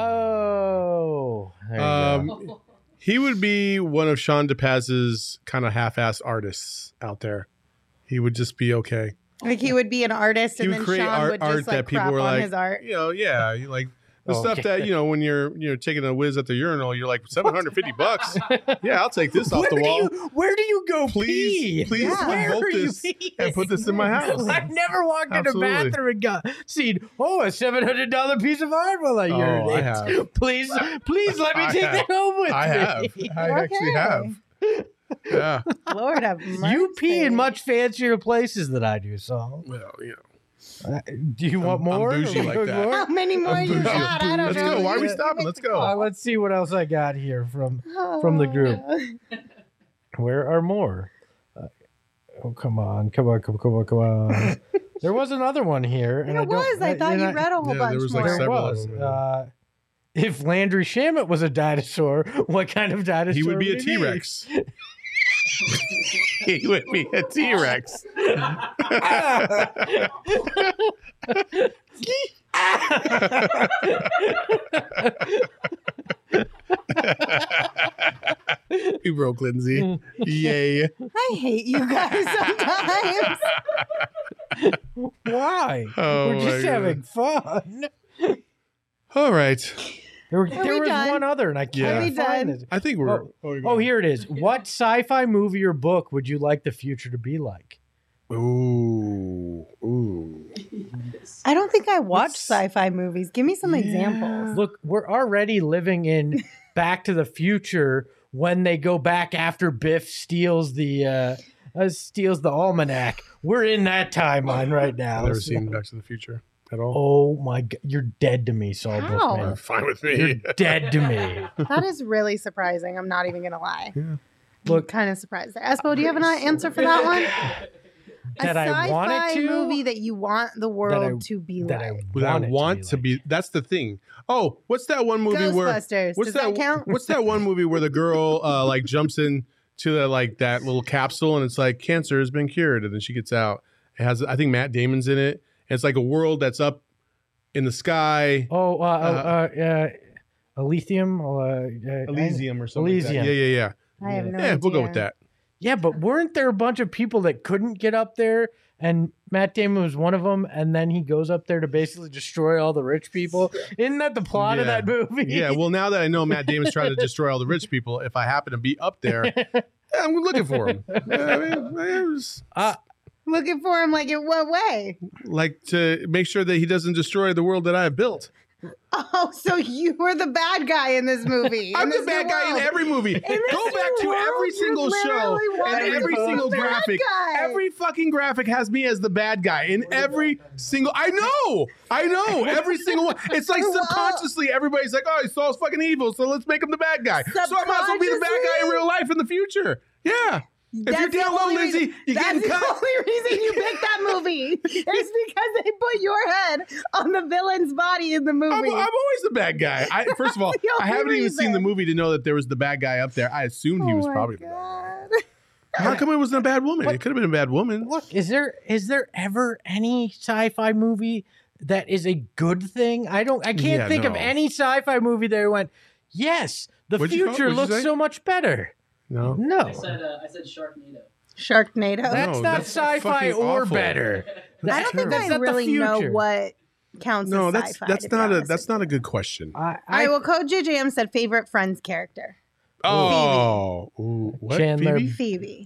Oh, there you go. He would be one of Sean DePaz's kind of half-ass artists out there. He would just be okay. Like he would be an artist, He and would then create Sean would just like crap on his art. you know, yeah, like the Oh, stuff okay. that, you know, when you're taking a whiz at the urinal, you're like $750. Yeah, I'll take this off the wall. Where do you go pee? Please Yeah. Where vote are you this peeing? and put this in my house. I've never walked Absolutely. in a bathroom and seen, a $700 piece of art while I Oh, urinate. I have. Please let me I take have. that home with I me. have. I actually Okay. have. Yeah. Lord have mercy. You pee in much fancier places than I do, Saul. Well, you know. Do you want I'm more? bougie Or like more? that. How many more I'm you bougie. got? I don't Let's know. go. Why are we You stopping? make Let's the go. call. Let's see what else I got here from the group. Where are more? Oh, come on. There was another one here. And There was. I thought you read a whole Yeah, bunch there was, more. like, There several was. of them. If Landry Shamet was a dinosaur, what kind of dinosaur He would be a he T-Rex. He would be a T-Rex. We broke Lindsay. Yay. I hate you guys sometimes. Why? Oh, We're just my having fun. All right. There we was done? one other, and I Yeah. Are can't we find done? it. I think we're... Oh, here it is. What sci-fi movie or book would you like the future to be like? Ooh. I don't think I watch sci-fi movies. Give me some examples. Look, we're already living in Back to the Future when they go back after Biff steals the almanac. We're in that timeline right now. I've never seen Back to the Future at all. Oh my God, you're dead to me, Saul How? Bookman. Fine with You're me. dead to me. That is really surprising. I'm not even gonna lie. Yeah. Look, Kind of surprised. Espo, do you have an answer for that one? that a I sci-fi wanted to, movie that you want the world to be that like. I it want to be. That's the thing. Oh, what's that one movie where? Ghostbusters. What's Does that count? What's that one movie where the girl like jumps in to that little capsule and it's like cancer has been cured and then she gets out. It has I think Matt Damon's in it. And it's like a world that's up in the sky. Elysium. Elysium or something. Like that. Elysium. Yeah. I have no Yeah, we'll go idea. with that. Yeah, but weren't there a bunch of people that couldn't get up there? And Matt Damon was one of them, and then he goes up there to basically destroy all the rich people. Isn't that the plot of Yeah. that movie? Yeah. Well, now that I know Matt Damon's trying to destroy all the rich people, if I happen to be up there, I'm looking for him. I mean, it was Looking for him like in what way? like to make sure that he doesn't destroy the world that I have built. Oh, so you were the bad guy in this movie. I'm in the this bad new guy in world. every movie. this Go back new to world, every you single show literally wanted and to every be single the bad graphic. guy. Every fucking graphic has me as the bad guy in every single. I know. Every single one. It's like Well, subconsciously everybody's like, oh, Saul's fucking evil, so let's make him the bad guy. So I might as well be the bad guy in real life in the future. Yeah. If you're That's the down low, only Lindsay, reason- you're That's getting the cut. only reason you picked that movie. It's because they put your head on the villain's body in the movie. I'm always the bad guy. First of all, the I only haven't even seen the reason. movie to know that there was the bad guy up there. I assumed he was my probably the bad guy. God. How come it wasn't a bad woman? It could have been a bad woman. Look, is there ever any sci-fi movie that is a good thing? I can't Yeah, think of no. any sci-fi movie that went, Yes, the What'd you call- future what'd you looks say? so much better. No. No, I said Sharknado. Sharknado. that's No, not that's sci-fi fucking or awful. I better. don't think That's I not the really know future. what counts No, as that's sci-fi. that's to be not a honest that's with not a you. good question. All right, well, Code JJM said favorite Friends character. Oh, ooh, what? Chandler. Phoebe? Phoebe.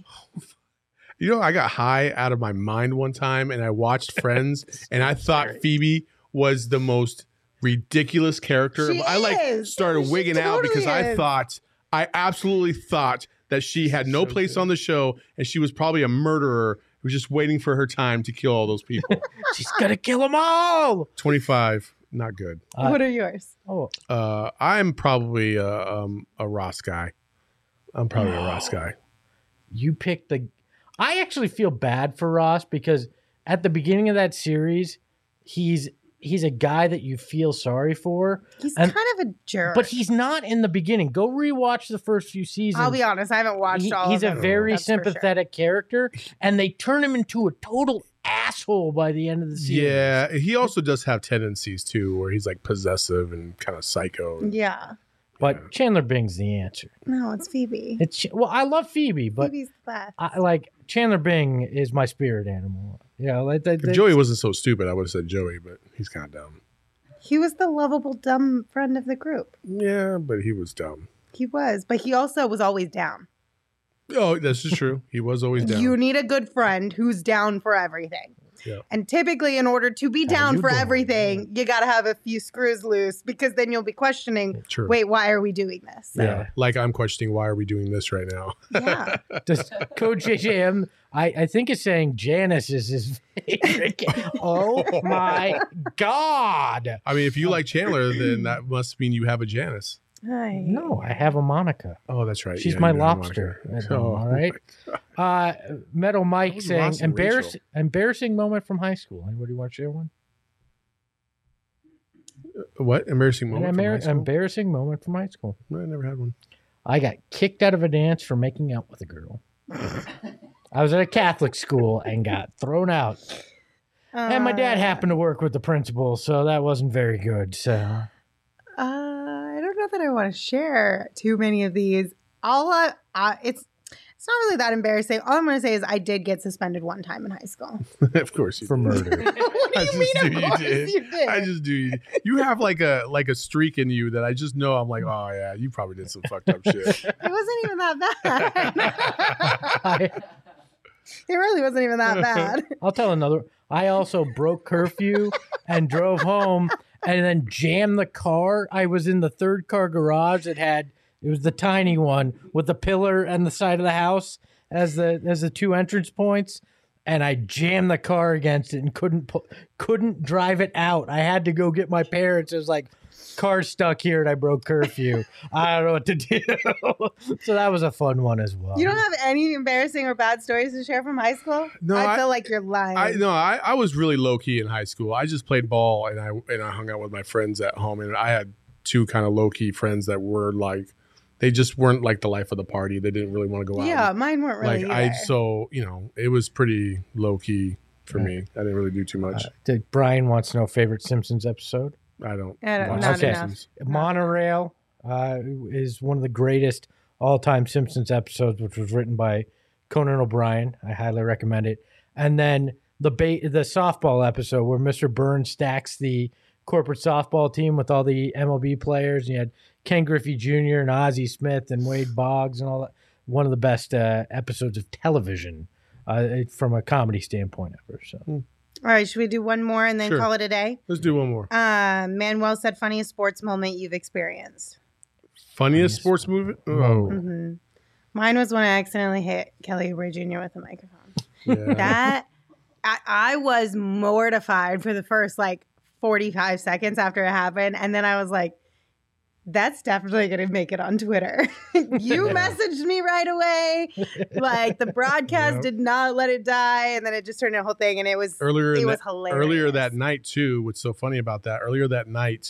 You know, I got high out of my mind one time, and I watched Friends, and I thought Phoebe was the most ridiculous character. She I is. started She wigging out totally because is. I absolutely thought that she had no place on the show, and she was probably a murderer who was just waiting for her time to kill all those people. She's gonna kill them all. 25, not good. What are yours? Oh, I'm probably a Ross guy. I'm probably a Ross guy. you picked the. I actually feel bad for Ross because at the beginning of that series, he's a guy that you feel sorry for. He's And- kind of a jerk. But he's not in the beginning. Go rewatch the first few seasons. I'll be honest, I haven't watched all He's of a them. very That's for sure. sympathetic character, and they turn him into a total asshole by the end of the series. Yeah, he also does have tendencies too, where he's like possessive and kind of psycho. Yeah. But Chandler Bing's the answer. No, it's Phoebe. Well, I love Phoebe, but Phoebe's the best. I like Chandler Bing is my spirit animal. Yeah, If Joey wasn't so stupid, I would have said Joey, but he's kind of dumb. He was the lovable, dumb friend of the group. Yeah, but he was dumb. He was, but he also was always down. Oh, this is true. He was always down. You need a good friend who's down for everything. Yeah. And typically, in order to be How down you for doing, everything, you got to have a few screws loose because then you'll be questioning, True. wait, why are we doing this? Yeah. Like I'm questioning why are we doing this right now? Yeah. Does Coach JJM, I think is saying Janice is his favorite. Oh my God. I mean, if you like Chandler, then that must mean you have a Janice. Hi. No, I have a Monica. Oh, that's right. She's Yeah, my you have lobster. Monica. All right. Metal Mike was saying Ross and embarrassing moment from high school. Anybody want to share one? What embarrassing An moment? from high school? embarrassing moment from high school. No, I never had one. I got kicked out of a dance for making out with a girl. I was at a Catholic school and got thrown out. And my dad happened to work with the principal, so that wasn't very good. So I don't know that I want to share too many of these. It's not really that embarrassing. All I'm going to say is I did get suspended one time in high school. Of course, you for did. murder. What do I you just mean? knew Of you course did. you did. I just do. You have like a streak in you that I just know. I'm like, oh yeah, you probably did some fucked up shit. It wasn't even that bad. I, It really wasn't even that bad. I'll tell another. I also broke curfew and drove home and then jammed the car. I was in the third car garage. It was the tiny one with the pillar and the side of the house as the two entrance points. And I jammed the car against it and couldn't drive it out. I had to go get my parents. It was like, car's stuck here and I broke curfew. I don't know what to do. So that was a fun one as well. You don't have any embarrassing or bad stories to share from high school? No, I feel like you're lying. I was really low key in high school. I just played ball and I hung out with my friends at home, and I had two kind of low key friends that were like, they just weren't like the life of the party. They didn't really want to go out. Yeah, mine weren't really either. So it was pretty low key for me. I didn't really do too much. Brian wants to know favorite Simpsons episode. I don't. Not watch Okay. enough. Monorail is one of the greatest all-time Simpsons episodes, which was written by Conan O'Brien. I highly recommend it. And then the softball episode where Mr. Burns stacks the corporate softball team with all the MLB players. And you had Ken Griffey Jr. and Ozzie Smith and Wade Boggs and all that. One of the best episodes of television from a comedy standpoint ever. So. All right, should we do one more and then Sure. call it a day? Let's do one more. Manuel said funniest sports moment you've experienced. Funniest sports movie? Oh, hmm Mine was when I accidentally hit Kelly Oubre Jr. with a microphone. yeah. That I was mortified for the first 45 seconds after it happened. And then I was like, that's definitely going to make it on Twitter. You messaged me right away. The broadcast did not let it die. And then it just turned into a whole thing. And it was hilarious. Earlier that night too. What's so funny about that? Earlier that night,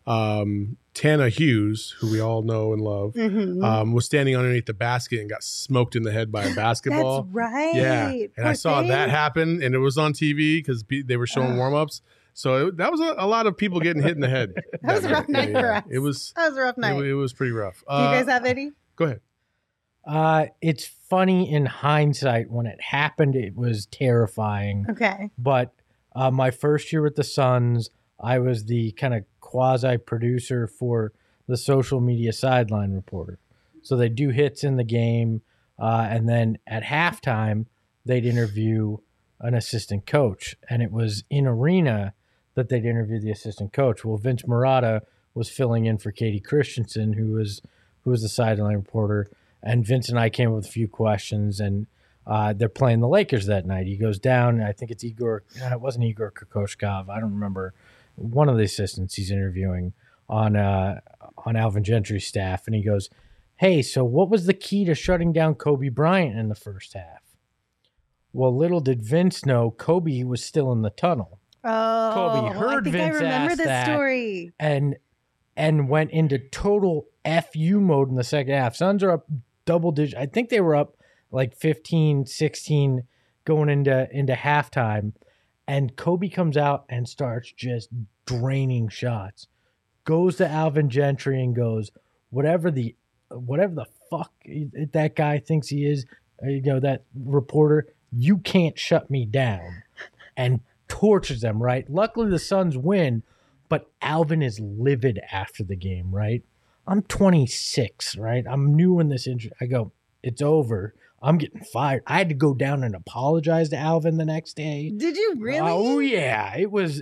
Tana Hughes, who we all know and love, was standing underneath the basket and got smoked in the head by a basketball. That's right. Yeah, and I saw that happen, and it was on TV because they were showing warm-ups. So that was a lot of people getting hit in the head. That was a rough night for us. It was. That was a rough night. It was pretty rough. Do you guys have any? Go ahead. It's funny in hindsight. When it happened, it was terrifying. Okay. But my first year with the Suns, I was the kind of quasi-producer for the social media sideline reporter. So they do hits in the game, and then at halftime, they'd interview an assistant coach. And it was in arena that they'd interview the assistant coach. Well, Vince Murata was filling in for Katie Christensen, who was the sideline reporter. And Vince and I came up with a few questions, and they're playing the Lakers that night. He goes down, I think it's Igor. It wasn't Igor Kokoshkov. I don't remember. One of the assistants he's interviewing on Alvin Gentry's staff, and he goes, "Hey, so what was the key to shutting down Kobe Bryant in the first half?" Well, little did Vince know Kobe was still in the tunnel. Oh, Kobe heard Vince I remember ask this that, story. and went into total FU mode in the second half. Suns are up double digit. I think they were up like 15, 16 going into halftime. And Kobe comes out and starts just draining shots. Goes to Alvin Gentry and goes, whatever the fuck that guy thinks he is, that reporter, you can't shut me down. And tortures them, right? Luckily the Suns win, but Alvin is livid after the game, right? I'm 26, right? I'm new in this industry. I go, it's over. I'm getting fired. I had to go down and apologize to Alvin the next day. Did you really? Oh yeah, it was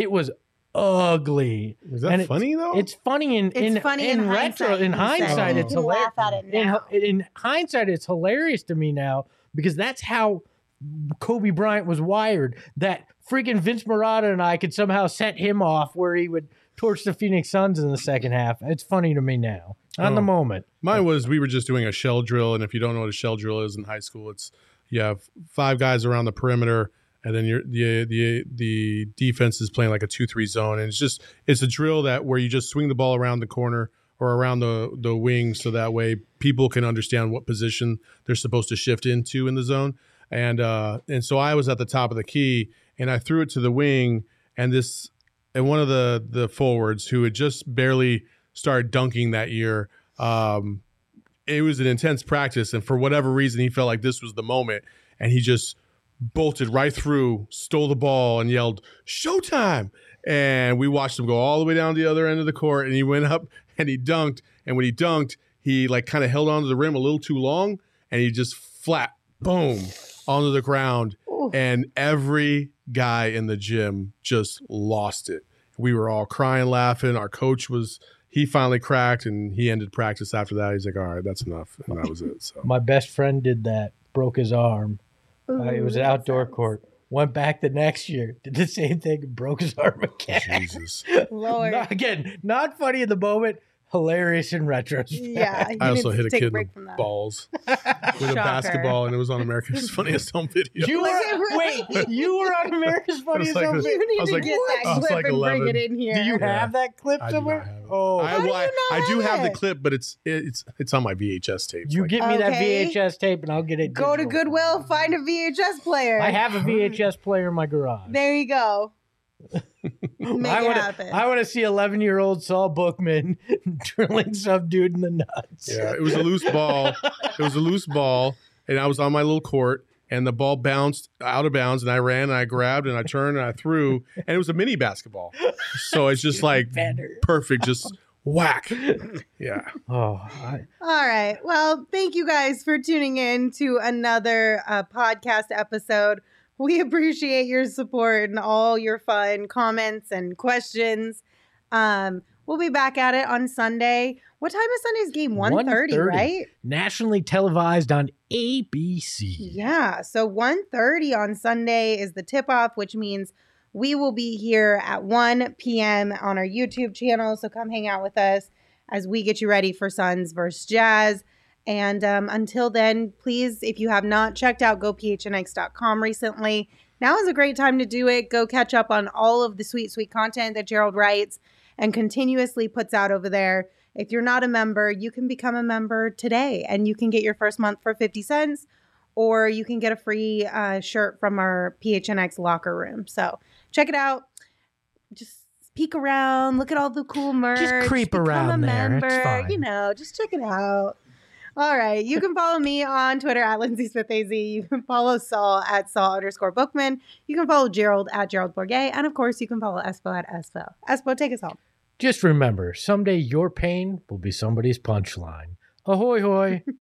ugly. Was that funny though? It's funny in retro. In hindsight, it's hilarious. Laugh at it now. In hindsight, it's hilarious to me now because that's how Kobe Bryant was wired. That freaking Vince Murata and I could somehow set him off where he would torch the Phoenix Suns in the second half. It's funny to me now. On the moment. Mine was we were just doing a shell drill, and if you don't know what a shell drill is in high school, it's you have 5 guys around the perimeter, and then the defense is playing like a 2-3 zone, and it's a drill where you just swing the ball around the corner or around the wing, so that way people can understand what position they're supposed to shift into in the zone. And so I was at the top of the key, and I threw it to the wing, and one of the forwards who had just barely started dunking that year. It was an intense practice, and for whatever reason, he felt like this was the moment, and he just bolted right through, stole the ball, and yelled, "Showtime!" And we watched him go all the way down to the other end of the court, and he went up and he dunked. And when he dunked, he like kind of held onto the rim a little too long, and he just flat, boom, onto the ground. Ooh. And every guy in the gym just lost it. We were all crying, laughing. Our coach he finally cracked, and he ended practice after that. He's like, all right, that's enough. And that was it. So my best friend did that, broke his arm. It was an outdoor court. Went back the next year, did the same thing, and broke his arm again. Jesus. Lord. Not funny in the moment, hilarious in retrospect. Yeah. I also hit a kid in the balls with a basketball, and it was on America's Funniest Home Video. You were on America's Funniest Home Video? You need to get that clip and bring it in here. Do you have that clip somewhere? I do have the clip, but it's on my VHS tape. You get me that VHS tape, and I'll get it. Go to Goodwill, find a VHS player. I have a VHS player in my garage. There you go. Make it happen. I want to see 11-year-old Saul Bookman drilling some dude in the nuts. Yeah, it was a loose ball. And I was on my little court, and the ball bounced out of bounds, and I ran, and I grabbed, and I turned, and I threw, and it was a mini basketball. So it's just like perfect, just whack. Yeah. All right. Well, thank you guys for tuning in to another podcast episode. We appreciate your support and all your fun comments and questions. We'll be back at it on Sunday. What time is Sunday's game? 1:30, right? Nationally televised on ABC. Yeah. So 1:30 on Sunday is the tip-off, which means we will be here at 1 p.m. on our YouTube channel. So come hang out with us as we get you ready for Suns versus Jazz. And until then, please, if you have not checked out gophnx.com recently, now is a great time to do it. Go catch up on all of the sweet, sweet content that Gerald writes and continuously puts out over there. If you're not a member, you can become a member today, and you can get your first month for 50 cents, or you can get a free shirt from our PHNX locker room. So check it out. just peek around, look at all the cool merch. Just creep become around a there. member, It's fine. You know, just check it out. All right. You can follow me on Twitter at Lindsay Smith AZ. You can follow Saul at Saul_Bookman. You can follow Gerald at Gerald Bourget. And of course, you can follow Espo at Espo. Espo, take us home. Just remember, someday your pain will be somebody's punchline. Ahoy, hoy.